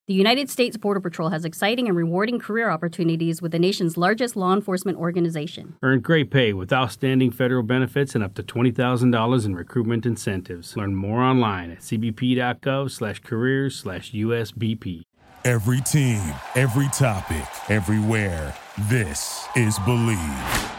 The United States Border Patrol has exciting and rewarding career opportunities with the nation's largest law enforcement organization. Earn great pay with outstanding federal benefits and up to $20,000 in recruitment incentives. Learn more online at cbp.gov/careers/USBP. Every team, every topic, everywhere. This is Believe.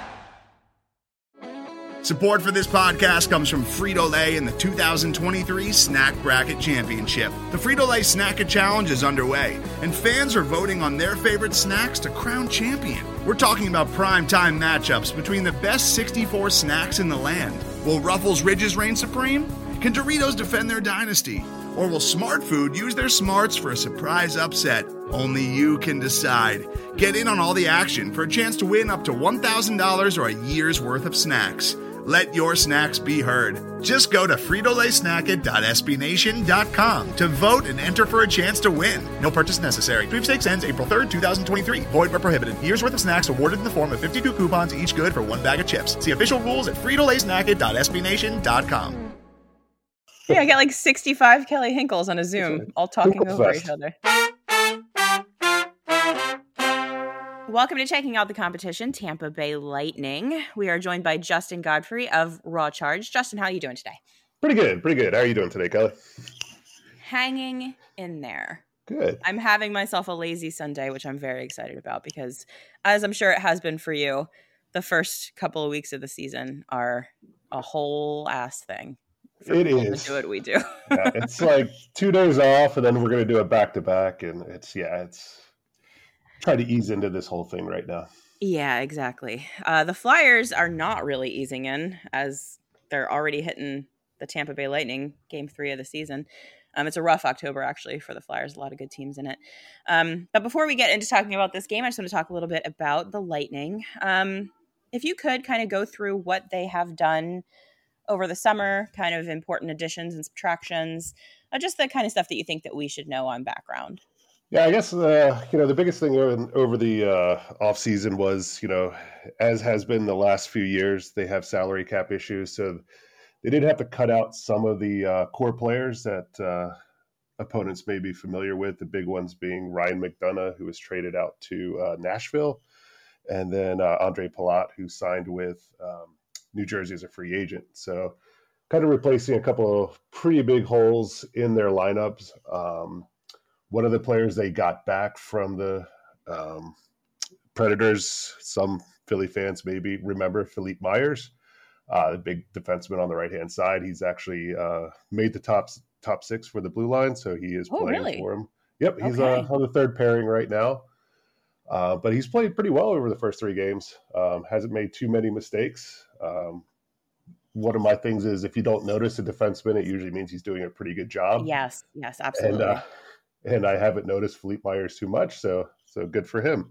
Support for this podcast comes from Frito-Lay and the 2023 Snack Bracket Championship. The Frito-Lay Snack-It Challenge is underway, and fans are voting on their favorite snacks to crown champion. We're talking about prime-time matchups between the best 64 snacks in the land. Will Ruffles Ridges reign supreme? Can Doritos defend their dynasty? Or will Smart Food use their smarts for a surprise upset? Only you can decide. Get in on all the action for a chance to win up to $1,000 or a year's worth of snacks. Let your snacks be heard. Just go to fritolaysnacket.sbnation.com to vote and enter for a chance to win. No purchase necessary. Sweepstakes ends April 3rd, 2023. Void where prohibited. Year's worth of snacks awarded in the form of 52 coupons, each good for one bag of chips. See official rules at fritolaysnacket.sbnation.com. Yeah, I got like 65 Kelly Hinkles on a Zoom, all talking over each other. Welcome to Checking Out the Competition, Tampa Bay Lightning. We are joined by Justin Godfrey of Raw Charge. Justin, how are you doing today? Pretty good. How are you doing today, Kelly? Hanging in there. Good. I'm having myself a lazy Sunday, which I'm very excited about because, as I'm sure it has been for you, the first couple of weeks of the season are a whole ass thing. It is. To do what we do. Yeah, it's like 2 days off, and then we're going to do it back to back, and it's try to ease into this whole thing right now. Yeah, exactly. The Flyers are not really easing in as they're already hitting the Tampa Bay Lightning game 3 of the season. It's a rough October, actually, for the Flyers. A lot of good teams in it. But before we get into talking about this game, I just want to talk a little bit about the Lightning. If you could kind of go through what they have done over the summer, kind of important additions and subtractions, just the kind of stuff that you think that we should know on background. Yeah, I guess, the biggest thing over the offseason was, as has been the last few years, they have salary cap issues. So they did have to cut out some of the core players that opponents may be familiar with, the big ones being Ryan McDonough, who was traded out to Nashville, and then Andre Palat, who signed with New Jersey as a free agent. So kind of replacing a couple of pretty big holes in their lineups. One of the players they got back from the Predators, some Philly fans maybe remember, Philippe Myers, the big defenseman on the right-hand side. He's actually made the top 6 for the blue line, so he is playing for him. Yep, he's on the third pairing right now. But he's played pretty well over the first 3 games. Hasn't made too many mistakes. One of my things is if you don't notice a defenseman, it usually means he's doing a pretty good job. Yes, absolutely. And I haven't noticed Philippe Myers too much, so good for him.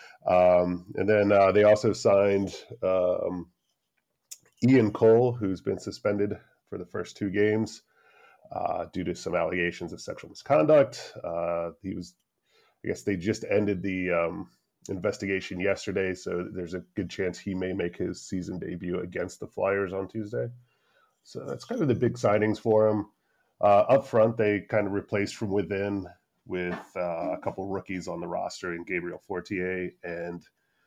And then they also signed Ian Cole, who's been suspended for the first 2 games due to some allegations of sexual misconduct. I guess they just ended the investigation yesterday, so there's a good chance he may make his season debut against the Flyers on Tuesday. So that's kind of the big signings for him. Up front, they kind of replaced from within with a couple rookies on the roster in Gabriel Fortier and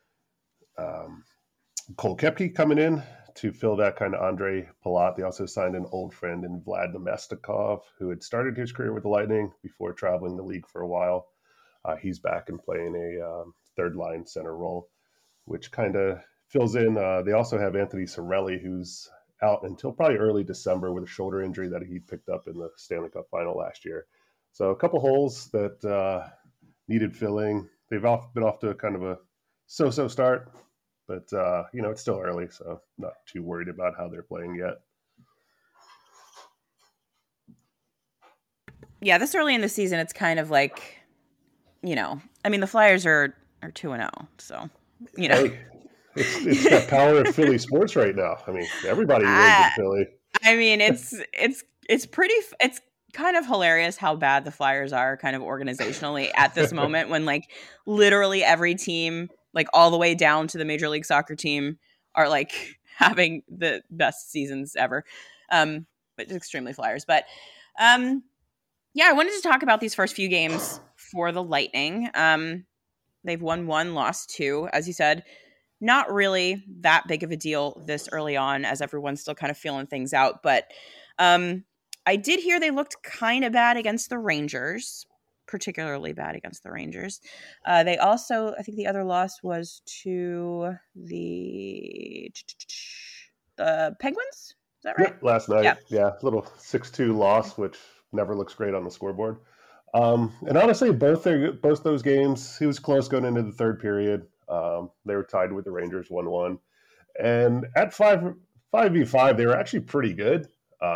Cole Koepke coming in to fill that kind of Andre Palat. They also signed an old friend in Vlad Namestnikov, who had started his career with the Lightning before traveling the league for a while. He's back and playing a third-line center role, which kind of fills in. They also have Anthony Cirelli, who's out until probably early December with a shoulder injury that he picked up in the Stanley Cup final last year. So a couple holes that needed filling. They've been off to a kind of a so-so start, but, it's still early, so not too worried about how they're playing yet. Yeah, this early in the season, it's kind of like, the Flyers are 2-0, so, Hey, it's that power of Philly sports right now. Everybody lives in Philly. It's pretty. It's kind of hilarious how bad the Flyers are kind of organizationally at this moment when like literally every team, like all the way down to the Major League Soccer team, are like having the best seasons ever. But extremely Flyers. But I wanted to talk about these first few games for the Lightning. They've won 1, lost 2, as you said. Not really that big of a deal this early on, as everyone's still kind of feeling things out. But I did hear they looked kind of bad against the Rangers, particularly bad against the Rangers. They also, I think the other loss was to the Penguins. Is that right? Yep, last night. Yeah, little 6-2 loss, which never looks great on the scoreboard. And honestly, both those games, he was close going into the third period. They were tied with the Rangers 1-1. And at 5v5, they were actually pretty good.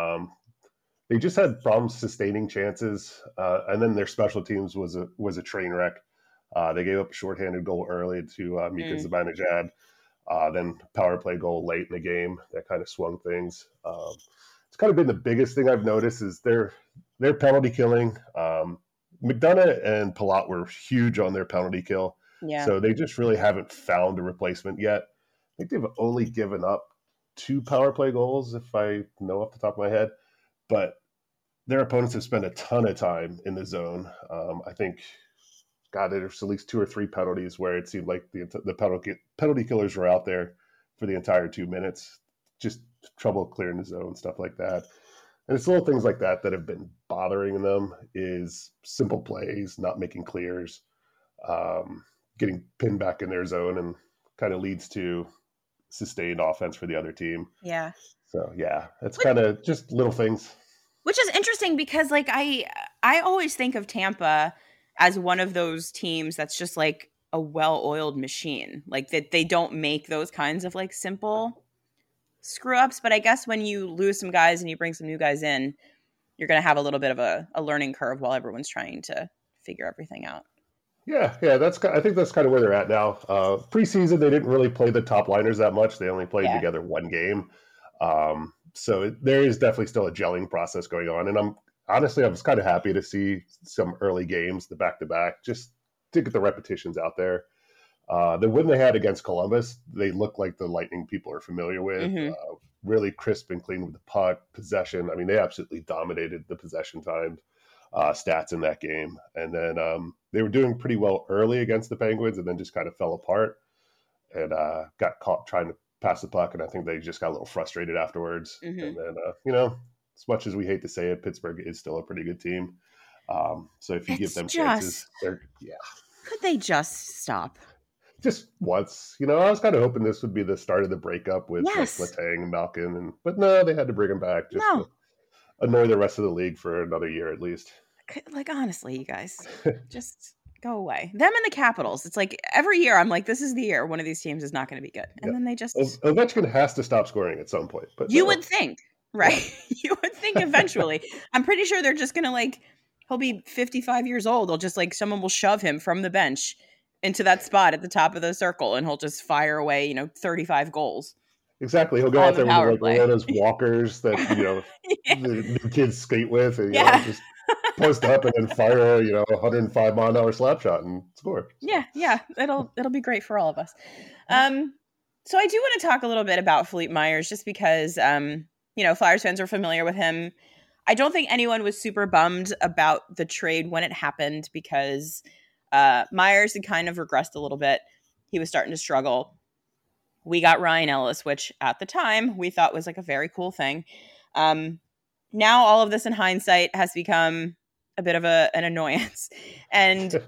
They just had problems sustaining chances. And then their special teams was a train wreck. They gave up a shorthanded goal early to Mika Zibanejad. Then power play goal late in the game. That kind of swung things. It's kind of been the biggest thing I've noticed is their penalty killing. McDonough and Palat were huge on their penalty kill. Yeah. So they just really haven't found a replacement yet. I think they've only given up 2 power play goals, if I know off the top of my head. But their opponents have spent a ton of time in the zone. I think, God, there's at least 2 or 3 penalties where it seemed like the penalty killers were out there for the entire 2 minutes. Just trouble clearing the zone, stuff like that. And it's little things like that that have been bothering them, is simple plays, not making clears, getting pinned back in their zone, and kind of leads to sustained offense for the other team. Yeah. So, yeah, it's kind of just little things. Which is interesting because, like, I always think of Tampa as one of those teams that's just, like, a well-oiled machine. Like, that they don't make those kinds of, like, simple screw-ups. But I guess when you lose some guys and you bring some new guys in, you're going to have a little bit of a learning curve while everyone's trying to figure everything out. Yeah, I think that's kind of where they're at now. Preseason, they didn't really play the top liners that much. They only played together 1 game. So there is definitely still a gelling process going on. And I was kind of happy to see some early games, the back-to-back, just to get the repetitions out there. The win they had against Columbus, they look like the Lightning people are familiar with. Really crisp and clean with the puck, possession. I mean, they absolutely dominated the possession time stats in that game. And then they were doing pretty well early against the Penguins and then just kind of fell apart and got caught trying to pass the puck. And I think they just got a little frustrated afterwards. And then, as much as we hate to say it, Pittsburgh is still a pretty good team. So if you give them chances, Could they just stop? Just once. I was kind of hoping this would be the start of the breakup with Letang and Malkin. But no, they had to bring him back just to annoy the rest of the league for another year at least. Like, honestly, you guys, just go away. Them and the Capitals. It's like every year I'm like, this is the year one of these teams is not going to be good. And then they just... Ovechkin has to stop scoring at some point. But you would think, right? You would think eventually. I'm pretty sure they're just going to, like, he'll be 55 years old. They'll just, like, someone will shove him from the bench into that spot at the top of the circle and he'll just fire away, 35 goals. Exactly. He'll go out there with one of those walkers that, the kids skate with and just post up and then fire, 105 mile an hour slap shot and score. So. Yeah. It'll be great for all of us. So I do want to talk a little bit about Philippe Myers just because, Flyers fans are familiar with him. I don't think anyone was super bummed about the trade when it happened because Myers had kind of regressed a little bit. He was starting to struggle. We got Ryan Ellis, which at the time we thought was like a very cool thing. Now all of this in hindsight has become a bit of an annoyance. And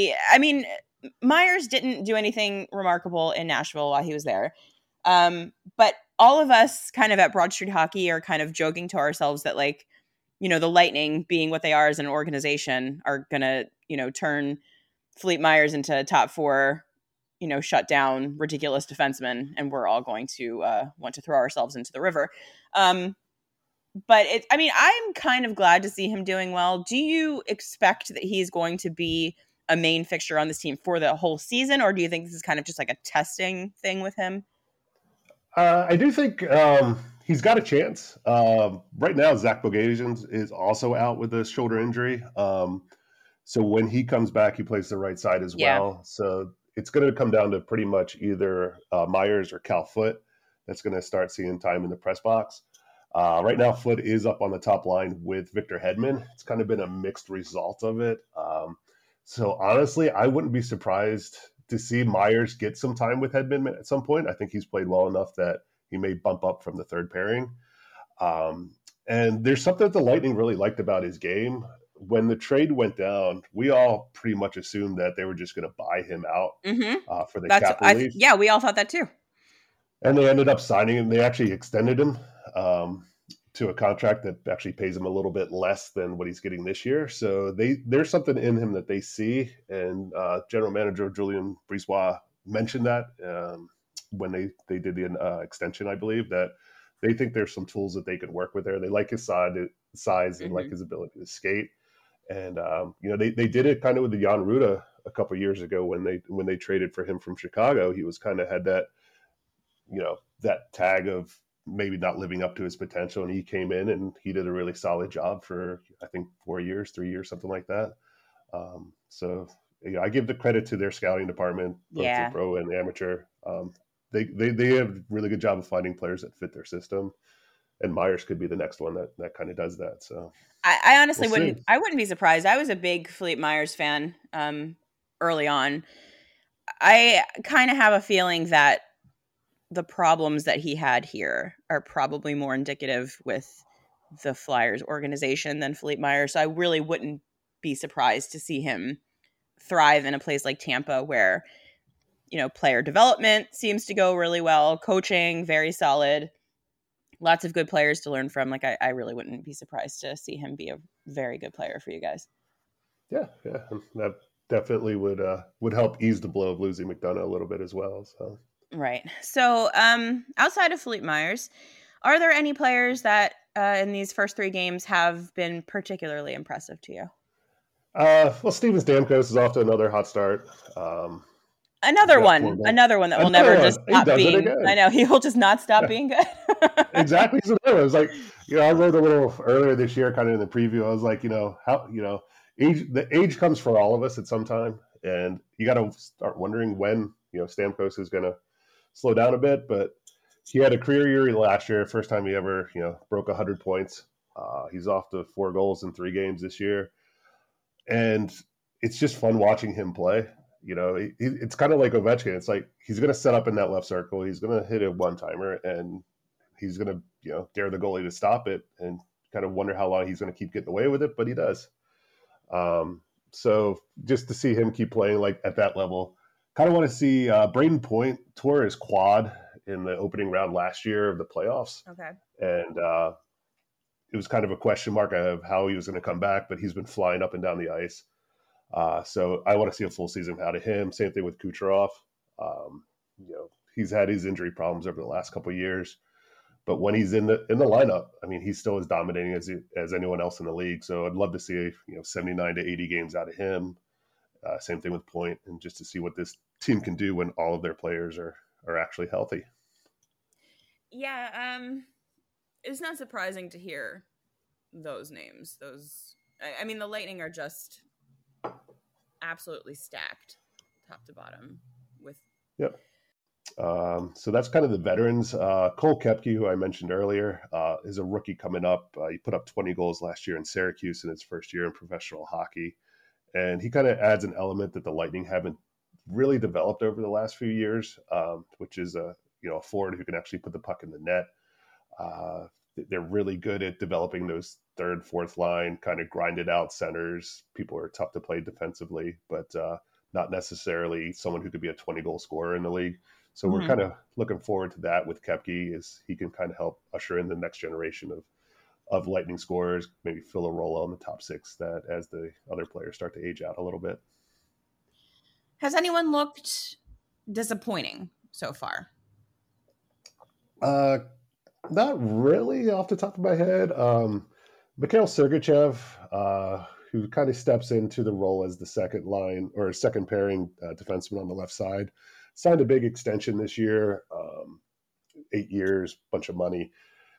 Myers didn't do anything remarkable in Nashville while he was there. But all of us kind of at Broad Street Hockey are kind of joking to ourselves that the Lightning being what they are as an organization are going to, turn Philippe Myers into top 4, shut down ridiculous defensemen, and we're all going to want to throw ourselves into the river. But I'm kind of glad to see him doing well. Do you expect that he's going to be a main fixture on this team for the whole season, or do you think this is kind of just like a testing thing with him? I do think he's got a chance. Right now, Zach Bogosian is also out with a shoulder injury. So when he comes back, he plays the right side as well. So it's going to come down to pretty much either Myers or Cal Foote that's going to start seeing time in the press box. Right now, Foote is up on the top line with Victor Hedman. It's kind of been a mixed result of it. So honestly, I wouldn't be surprised to see Myers get some time with Hedman at some point. I think he's played well enough that he may bump up from the third pairing. And there's something that the Lightning really liked about his game. When the trade went down, we all pretty much assumed that they were just going to buy him out for the cap relief. Yeah, we all thought that too. And they ended up signing him. They actually extended him to a contract that actually pays him a little bit less than what he's getting this year. So there's something in him that they see. And General Manager Julien Brisebois mentioned that when they did the extension, I believe, that they think there's some tools that they could work with there. They like his size and like his ability to skate. And, they did it kind of with the Jan Rutta a couple of years ago when they traded for him from Chicago. He was kind of had that, that tag of maybe not living up to his potential. And he came in and he did a really solid job for, I think, 3 years, something like that. I give the credit to their scouting department, both the pro and amateur. They have a really good job of finding players that fit their system. And Myers could be the next one that kind of does that. So I honestly wouldn't be surprised. I was a big Philippe Myers fan early on. I kind of have a feeling that the problems that he had here are probably more indicative with the Flyers organization than Philippe Myers. So I really wouldn't be surprised to see him thrive in a place like Tampa where, player development seems to go really well, coaching, very solid. Lots of good players to learn from. Like, I really wouldn't be surprised to see him be a very good player for you guys. Yeah. That definitely would help ease the blow of losing McDonough a little bit as well. So right. So outside of Philippe Myers, are there any players that in these first 3 games have been particularly impressive to you? Steven Stamkos is off to another hot start. Another one that will never just stop being. I know he will just not stop being good. Exactly. So it was like, I wrote a little earlier this year, kind of in the preview. I was like, the age comes for all of us at some time, and you got to start wondering when Stamkos is going to slow down a bit. But he had a career year last year, first time he ever broke 100 points. He's off to 4 goals in 3 games this year, and it's just fun watching him play. It's kind of like Ovechkin. It's like he's going to set up in that left circle. He's going to hit a one-timer, and he's going to, dare the goalie to stop it and kind of wonder how long he's going to keep getting away with it, but he does. So just to see him keep playing like at that level, kind of want to see Braden Point tore his quad in the opening round last year of the playoffs. Okay. And it was kind of a question mark of how he was going to come back, but he's been flying up and down the ice. So I want to see a full season out of him. Same thing with Kucherov. He's had his injury problems over the last couple of years, but when he's in the lineup, I mean, he's still as dominating as anyone else in the league. So I'd love to see 79 to 80 games out of him. Same thing with Point, and just to see what this team can do when all of their players are actually healthy. Yeah, it's not surprising to hear those names. I mean, the Lightning are just absolutely stacked top to bottom with. Yep. So that's kind of the veterans. Cole Koepke, who I mentioned earlier, is a rookie coming up. He put up 20 goals last year in Syracuse in his first year in professional hockey. And he kind of adds an element that the Lightning haven't really developed over the last few years, which is a forward who can actually put the puck in the net. They're really good at developing those third, fourth line, kind of grinded out centers. People are tough to play defensively, but not necessarily someone who could be a 20-goal scorer in the league. So we're kind of looking forward to that with Koepke, as he can kind of help usher in the next generation of Lightning scorers, maybe fill a role in the top 6 that as the other players start to age out a little bit. Has anyone looked disappointing so far? Not really off the top of my head. Mikhail Sergachev, who kind of steps into the role as the second line or second pairing defenseman on the left side, signed a big extension this year, 8 years, bunch of money.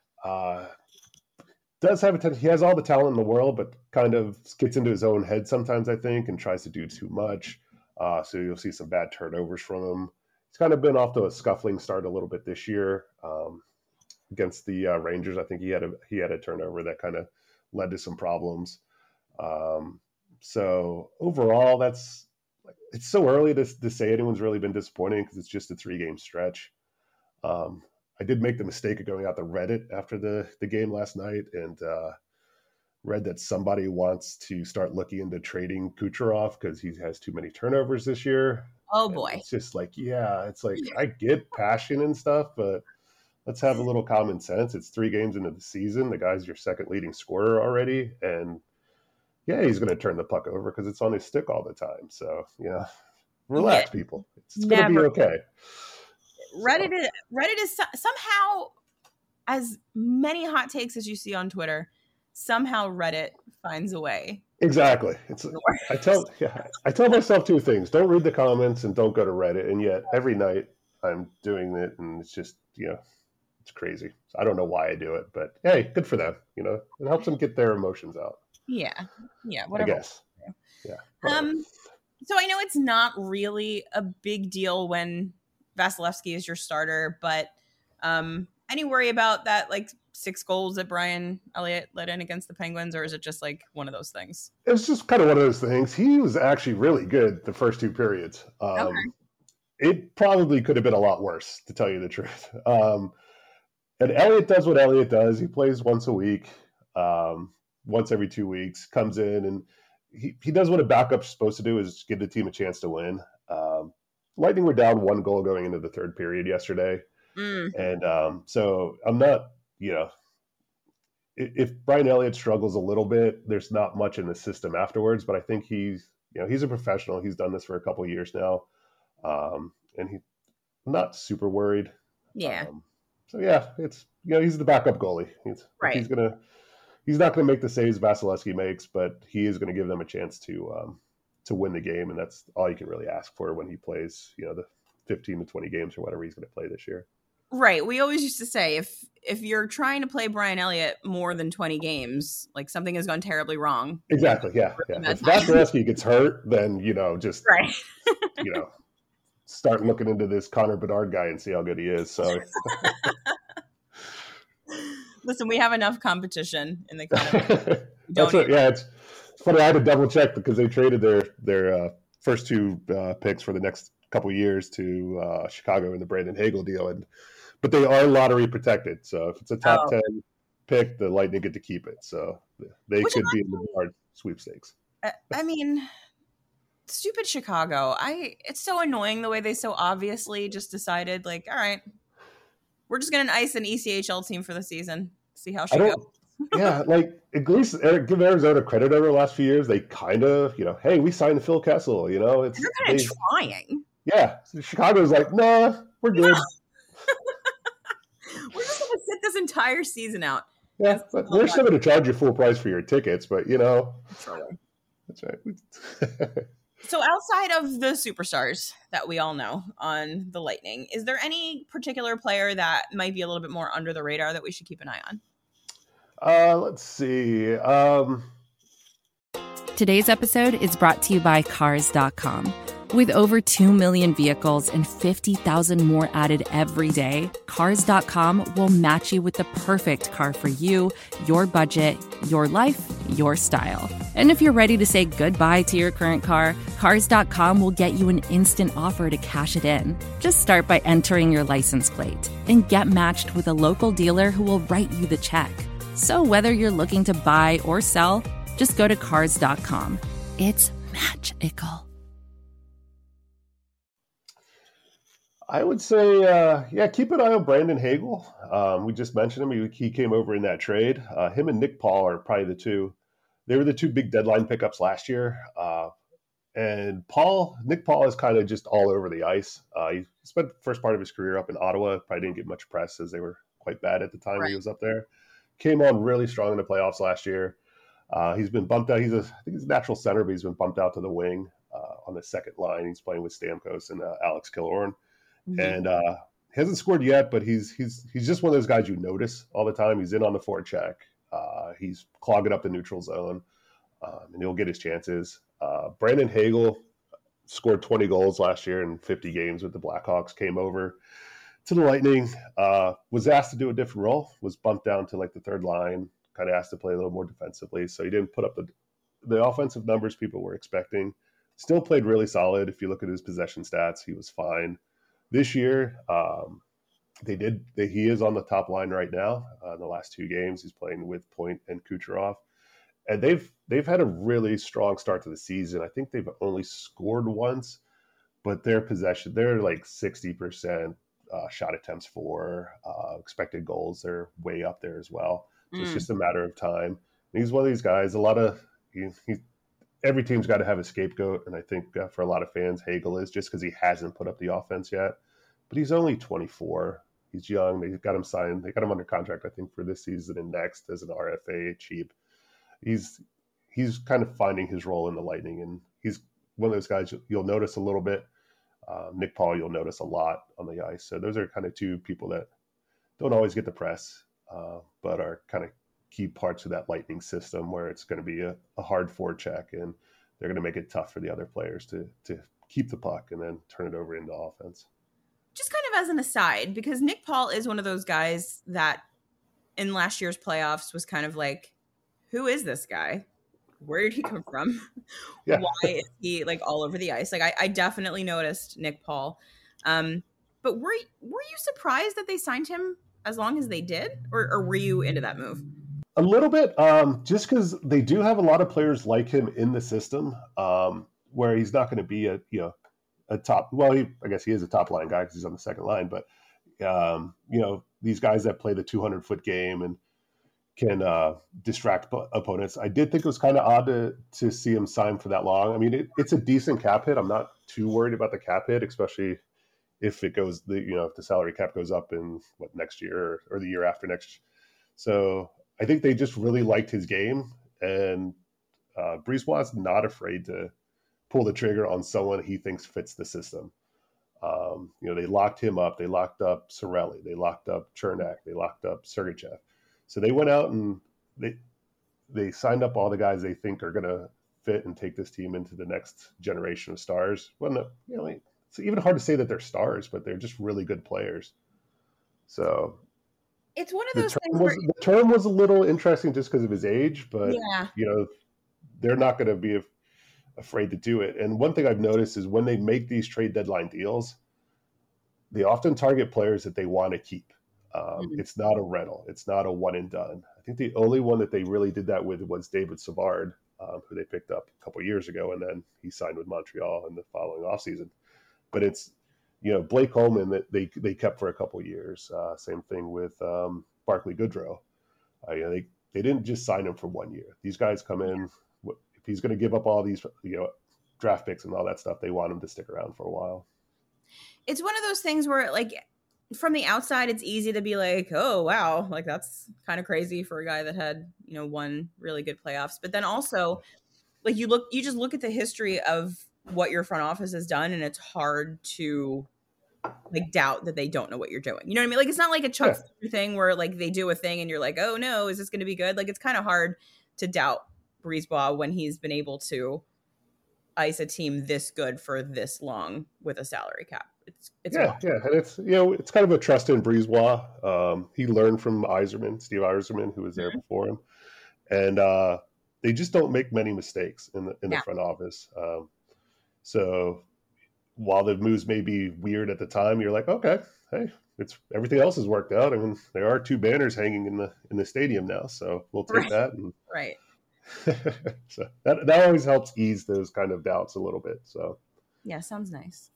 Does have he has all the talent in the world, but kind of gets into his own head sometimes, I think, and tries to do too much. So you'll see some bad turnovers from him. He's kind of been off to a scuffling start a little bit this year. Against the Rangers, I think he had a turnover that kind of led to some problems. So overall, it's so early to say anyone's really been disappointing because it's just a 3-game stretch. I did make the mistake of going out to Reddit after the game last night and read that somebody wants to start looking into trading Kucherov because he has too many turnovers this year. Oh, And boy. it's just like, it's like I get passion and stuff, but let's have a little common sense. It's 3 games into the season. The guy's your second leading scorer already. And he's going to turn the puck over because it's on his stick all the time. So, relax, people. It's going to be okay. Reddit is somehow, as many hot takes as you see on Twitter, somehow Reddit finds a way. Exactly. I tell myself 2 things. Don't read the comments and don't go to Reddit. And yet every night I'm doing it and it's just, it's crazy. I don't know why I do it, but hey, good for them. It helps them get their emotions out. Yeah. Whatever. I guess. Yeah. So I know it's not really a big deal when Vasilevsky is your starter, but any worry about that, like 6 goals that Brian Elliott let in against the Penguins, or is it just like one of those things? It was just kind of one of those things. He was actually really good the first 2 periods. Okay. It probably could have been a lot worse, to tell you the truth. And Elliott does what Elliott does. He plays once a week, once every 2 weeks, comes in, and he does what a backup's supposed to do, is give the team a chance to win. Lightning were down 1 goal going into the 3rd period yesterday. And so I'm not, if Brian Elliott struggles a little bit, there's not much in the system afterwards, but I think he's a professional. He's done this for a couple of years now. And he's not super worried. Yeah. It's, he's the backup goalie. Right. He's not going to make the saves Vasilevsky makes, but he is going to give them a chance to win the game. And that's all you can really ask for when he plays, the 15 to 20 games or whatever he's going to play this year. Right. We always used to say if you're trying to play Brian Elliott more than 20 games, like something has gone terribly wrong. Exactly. Yeah. If Vasilevsky gets hurt, then, just, right. Start looking into this Connor Bedard guy and see how good he is. So listen, we have enough competition in the kind That's it. Yeah. It's funny. I had to double check because they traded their first 2 picks for the next couple of years to Chicago in the Brandon Hagel deal. But they are lottery protected. So if it's a top 10 pick, the Lightning get to keep it. So they could be in the hard sweepstakes. I mean, stupid Chicago. It's so annoying the way they so obviously just decided, like, all right, we're just going to ice an ECHL team for the season. See how she goes. Yeah, like at least give Arizona credit over the last few years. They kind of, hey, we signed Phil Kessel. They're kind of trying. Yeah, Chicago's like, nah, we're good. We're just going to sit this entire season out. Yeah, but we're still going to charge you full price for your tickets, but that's right. So outside of the superstars that we all know on the Lightning, is there any particular player that might be a little bit more under the radar that we should keep an eye on? Let's see. Today's episode is brought to you by Cars.com. With over 2 million vehicles and 50,000 more added every day, Cars.com will match you with the perfect car for you, your budget, your life, your style. And if you're ready to say goodbye to your current car, Cars.com will get you an instant offer to cash it in. Just start by entering your license plate and get matched with a local dealer who will write you the check. So whether you're looking to buy or sell, just go to Cars.com. It's magical. I would say, keep an eye on Brandon Hagel. We just mentioned him. He came over in that trade. Him and Nick Paul are probably the two. They were the 2 big deadline pickups last year. And Nick Paul is kind of just all over the ice. He spent the first part of his career up in Ottawa. Probably didn't get much press as they were quite bad at the time he was up there. Came on really strong in the playoffs last year. He's been bumped out. I think he's a natural center, but he's been bumped out to the wing on the second line. He's playing with Stamkos and Alex Killorn. Mm-hmm. And he hasn't scored yet, but he's just one of those guys you notice all the time. He's in on the forecheck. He's clogging up the neutral zone, and he'll get his chances. Brandon Hagel scored 20 goals last year in 50 games with the Blackhawks, came over to the Lightning, was asked to do a different role, was bumped down to like the third line, kind of asked to play a little more defensively. So he didn't put up the offensive numbers people were expecting. Still played really solid. If you look at his possession stats, he was fine. This year, he is on the top line right now. In the last 2 games, he's playing with Point and Kucherov, and they've had a really strong start to the season. I think they've only scored once, but their possession, they're like 60% shot attempts for, expected goals, they're way up there as well. So it's just a matter of time. And he's one of these guys. Every team's got to have a scapegoat, and I think for a lot of fans, Hagel is, just because he hasn't put up the offense yet. But he's only 24. He's young. They got him signed. They got him under contract, I think, for this season and next as an RFA cheap. He's kind of finding his role in the Lightning, and he's one of those guys you'll notice a little bit. Nick Paul, you'll notice a lot on the ice. So those are kind of 2 people that don't always get the press, but are kind of key parts of that Lightning system, where it's going to be a hard forecheck, and they're going to make it tough for the other players to keep the puck and then turn it over into offense. Just kind of as an aside, because Nick Paul is one of those guys that in last year's playoffs was kind of like, who is this guy? Where did he come from? Yeah. Why is he like all over the ice? Like I definitely noticed Nick Paul. But were you surprised that they signed him as long as they did? Or were you into that move? A little bit, just because they do have a lot of players like him in the system, where he's not going to be a top. Well, I guess he is a top line guy because he's on the second line. But these guys that play the 200-foot game and can distract opponents. I did think it was kind of odd to see him sign for that long. I mean, it's a decent cap hit. I'm not too worried about the cap hit, especially if it goes if the salary cap goes up in next year or the year after next. So I think they just really liked his game, and Brisebois is not afraid to pull the trigger on someone he thinks fits the system. They locked him up. They locked up Cirelli. They locked up Chernak. They locked up Sergachev. So they went out and they signed up all the guys they think are going to fit and take this team into the next generation of stars. Well, it's even hard to say that they're stars, but they're just really good players. So it's one of those things the term was a little interesting just because of his age, but they're not going to be afraid to do it. And one thing I've noticed is when they make these trade deadline deals, they often target players that they want to keep. It's not a rental. It's not a one and done. I think the only one that they really did that with was David Savard, who they picked up a couple of years ago, and then he signed with Montreal in the following offseason. But it's, Blake Coleman that they kept for a couple of years. Same thing with Barclay Goodrow. They didn't just sign him for 1 year. These guys come in. If he's going to give up all these draft picks and all that stuff, they want him to stick around for a while. It's one of those things where, like, from the outside, it's easy to be like, oh, wow, like that's kind of crazy for a guy that had, one really good playoffs. But then also, like, you just look at the history of what your front office has done, and it's hard to like doubt that they don't know what you're doing. You know what I mean? Like, it's not like a Chuck thing where like they do a thing and you're like, oh no, is this going to be good? Like, it's kind of hard to doubt Brisebois when he's been able to ice a team this good for this long with a salary cap. It's and it's it's kind of a trust in Brisebois. He learned from Steve Yzerman, who was there before him, and they just don't make many mistakes in the front office. So while the moves may be weird at the time, you're like, okay, hey, it's everything else has worked out. I mean, there are 2 banners hanging in the stadium now, so we'll take that. And, right. So that always helps ease those kind of doubts a little bit. So yeah, sounds nice.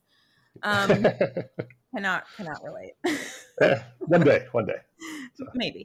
Cannot relate. One day. So. Maybe.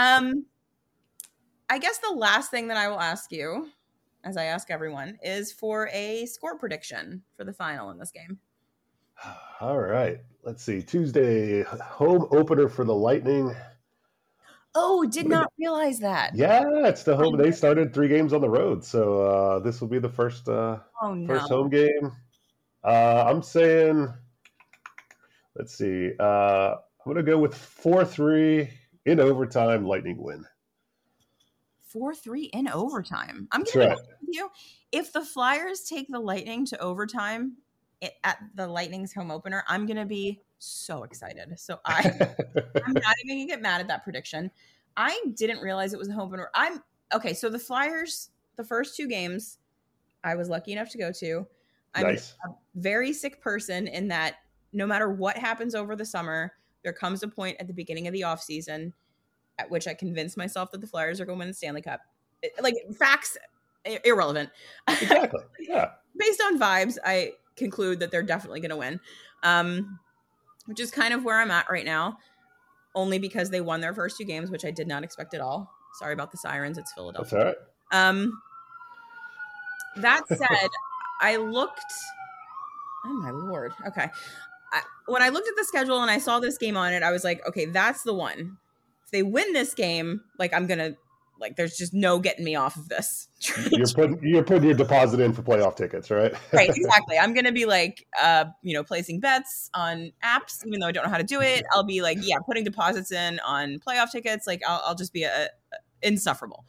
I guess the last thing that I will ask you, as I ask everyone, is for a score prediction for the final in this game. All right. Let's see. Tuesday, home opener for the Lightning. Oh, did not realize that. Yeah, it's the home. They started 3 games on the road, so this will be the first first home game. I'm saying, let's see. I'm going to go with 4-3 in overtime. Lightning win. 4-3 in overtime. I'm going to be honest with you. If the Flyers take the Lightning to overtime at the Lightning's home opener, I'm going to be so excited. So I'm not even going to get mad at that prediction. I didn't realize it was a home opener. Okay, so the Flyers the first 2 games I was lucky enough to go to. I'm Nice. a very sick person in that no matter what happens over the summer, there comes a point at the beginning of the off season at which I convince myself that the Flyers are going to win the Stanley Cup. Like, facts, irrelevant. Exactly. Yeah. Based on vibes, I conclude that they're definitely going to win, which is kind of where I'm at right now, only because they won their first 2 games, which I did not expect at all. Sorry about the sirens. It's Philadelphia. That's all right. That said, I looked. Oh my Lord. Okay. When I looked at the schedule and I saw this game on it, I was like, okay, that's the one. If they win this game, like, I'm going to, like, there's just no getting me off of this. You're putting your deposit in for playoff tickets, right? Right, exactly. I'm going to be like, placing bets on apps, even though I don't know how to do it. I'll be like, putting deposits in on playoff tickets. Like, I'll just be insufferable.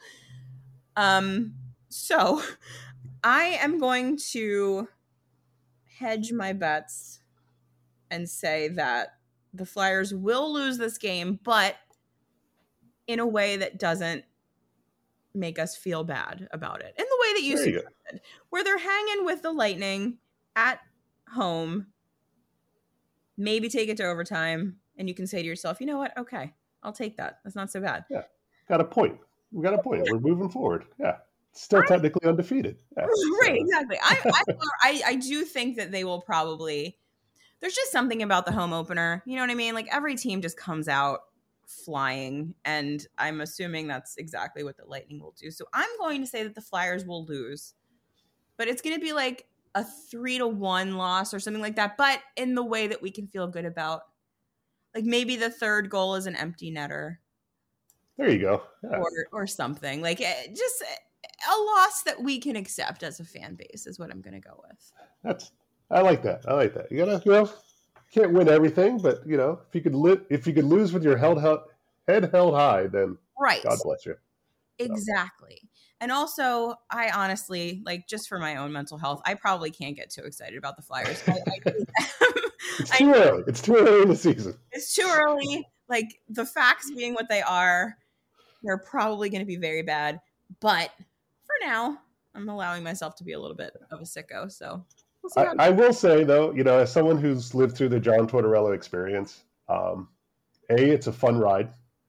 So I am going to hedge my bets and say that the Flyers will lose this game, but in a way that doesn't make us feel bad about it. In the way that you suggested, where they're hanging with the Lightning at home, maybe take it to overtime, and you can say to yourself, you know what? Okay, I'll take that. That's not so bad. Yeah, got a point. We got a point. We're moving forward. Yeah. Still technically undefeated. Yeah. Right, exactly. I do think that they will probably, there's just something about the home opener. You know what I mean? Like, every team just comes out flying, and I'm assuming that's exactly what the Lightning will do. So I'm going to say that the Flyers will lose, but it's going to be like a 3-1 loss or something like that, but in the way that we can feel good about. Like, maybe the third goal is an empty netter. There you go. Yeah. Or something. Like, just a loss that we can accept as a fan base is what I'm going to go with. I like that. You gotta, can't win everything, but if you could lose with your head held high, then right. God bless you. Exactly. And also, I honestly, like, just for my own mental health, I probably can't get too excited about the Flyers. It's too early. It's too early in the season. It's too early. Like, the facts being what they are, they're probably going to be very bad. But for now, I'm allowing myself to be a little bit of a sicko. So we'll see. I will say, though, as someone who's lived through the John Tortorella experience, A, it's a fun ride.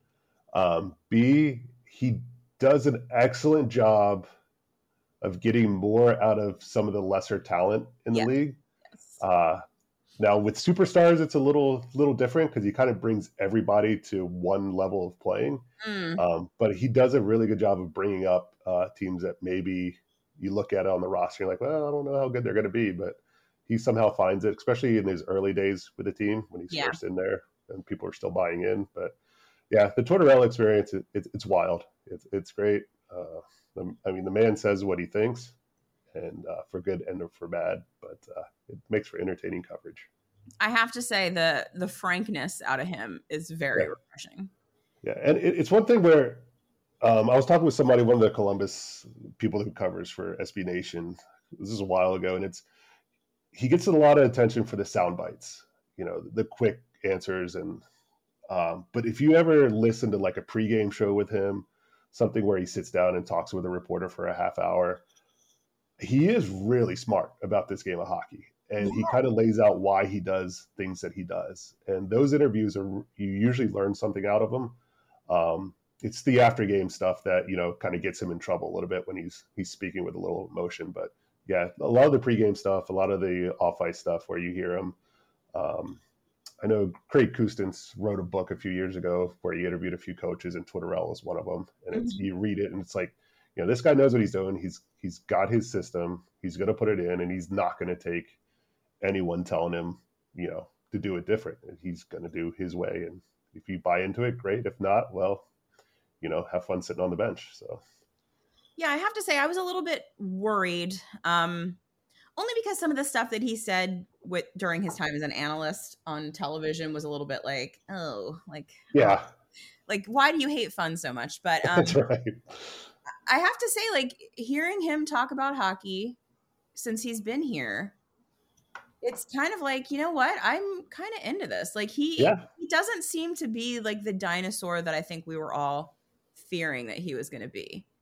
B, he does an excellent job of getting more out of some of the lesser talent in the league. Yes. Now with superstars, it's a little different because he kind of brings everybody to one level of playing. But he does a really good job of bringing up teams that maybe you look at it on the roster, you're like, well, I don't know how good they're going to be, but he somehow finds it, especially in his early days with the team when he's first in there and people are still buying in. But yeah, the Tortorella experience, it's wild. It's great. I mean, the man says what he thinks, and for good and for bad, but it makes for entertaining coverage. I have to say the frankness out of him is very refreshing. Yeah, and it's one thing where I was talking with somebody, one of the Columbus people who covers for SB Nation. This is a while ago, and he gets a lot of attention for the sound bites, the quick answers, and but if you ever listen to like a pregame show with him, something where he sits down and talks with a reporter for a half hour, he is really smart about this game of hockey. And he kind of lays out why he does things that he does. And those interviews you usually learn something out of them. It's the after game stuff that, kind of gets him in trouble a little bit when he's speaking with a little emotion. But yeah, a lot of the pregame stuff, a lot of the off ice stuff where you hear him. I know Craig Custance wrote a book a few years ago where he interviewed a few coaches, and Tortorella is one of them. And you read it and it's like, this guy knows what he's doing. He's got his system. He's going to put it in, and he's not going to take anyone telling him, to do it different. He's going to do his way. And if you buy into it, great. If not, well, have fun sitting on the bench. So, yeah, I have to say I was a little bit worried, only because some of the stuff that he said during his time as an analyst on television was a little bit like, like, why do you hate fun so much? But that's right. I have to say, like, hearing him talk about hockey since he's been here, it's kind of like, you know what? I'm kind of into this. Like, he doesn't seem to be like the dinosaur that I think we were all fearing that he was going to be.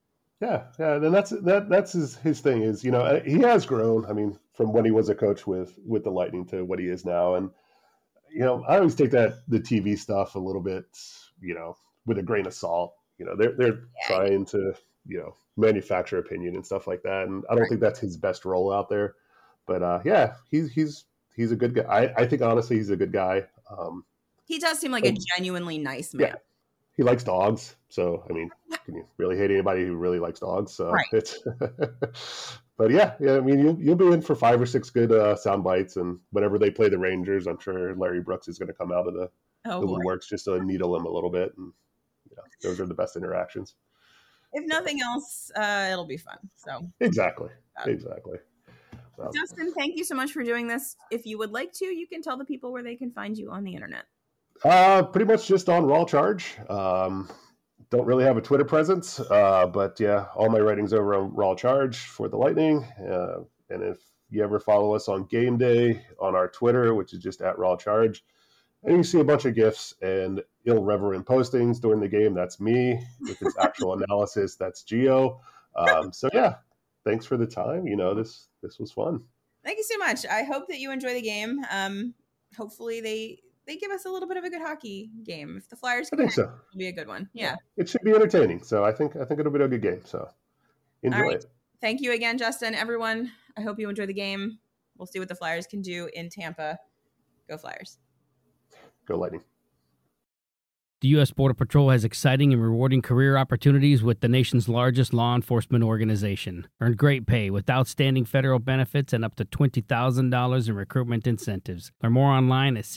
Yeah, and that's his thing is, he has grown. I mean, from when he was a coach with the Lightning to what he is now, and I always take the TV stuff a little bit, with a grain of salt. They're trying to manufacture opinion and stuff like that, and I don't think that's his best role out there. But he's a good guy. I think honestly he's a good guy. He does seem like a genuinely nice man. Yeah. He likes dogs, so I mean, can you really hate anybody who really likes dogs? So right. It's, but yeah. I mean, you'll be in for 5 or 6 good sound bites, and whenever they play the Rangers, I'm sure Larry Brooks is going to come out of the woodworks just to needle him a little bit, and those are the best interactions. If nothing else, it'll be fun. So exactly. Justin, thank you so much for doing this. If you would like to, you can tell the people where they can find you on the internet. Pretty much just on Raw Charge. Don't really have a Twitter presence, but yeah, all my writing's over on Raw Charge for the Lightning. And if you ever follow us on Game Day on our Twitter, which is just at Raw Charge, and you see a bunch of GIFs and irreverent postings during the game, that's me. If it's actual analysis, that's Gio. So yeah, thanks for the time. This was fun. Thank you so much. I hope that you enjoy the game. Hopefully they give us a little bit of a good hockey game. If the Flyers can, it'll be a good one. Yeah. It should be entertaining. So I think it'll be a good game. So enjoy it. Thank you again, Justin. Everyone, I hope you enjoy the game. We'll see what the Flyers can do in Tampa. Go Flyers. Go Lightning. The U.S. Border Patrol has exciting and rewarding career opportunities with the nation's largest law enforcement organization. Earn great pay with outstanding federal benefits and up to $20,000 in recruitment incentives. Learn more online at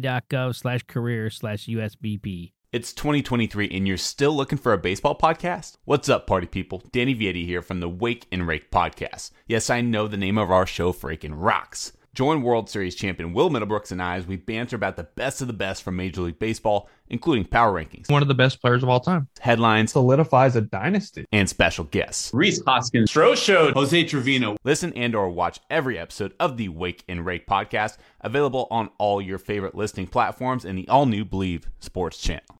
cbp.gov/career/USBP. It's 2023 and you're still looking for a baseball podcast? What's up, party people? Danny Vietti here from the Wake and Rake podcast. Yes, I know the name of our show freaking rocks. Join World Series champion Will Middlebrooks and I as we banter about the best of the best from Major League Baseball, including power rankings, one of the best players of all time, headlines, solidifies a dynasty, and special guests. Rhys Hoskins, Stroh Showed, Jose Trevino. Listen and or watch every episode of the Wake and Rake podcast, available on all your favorite listening platforms and the all-new Believe Sports channel.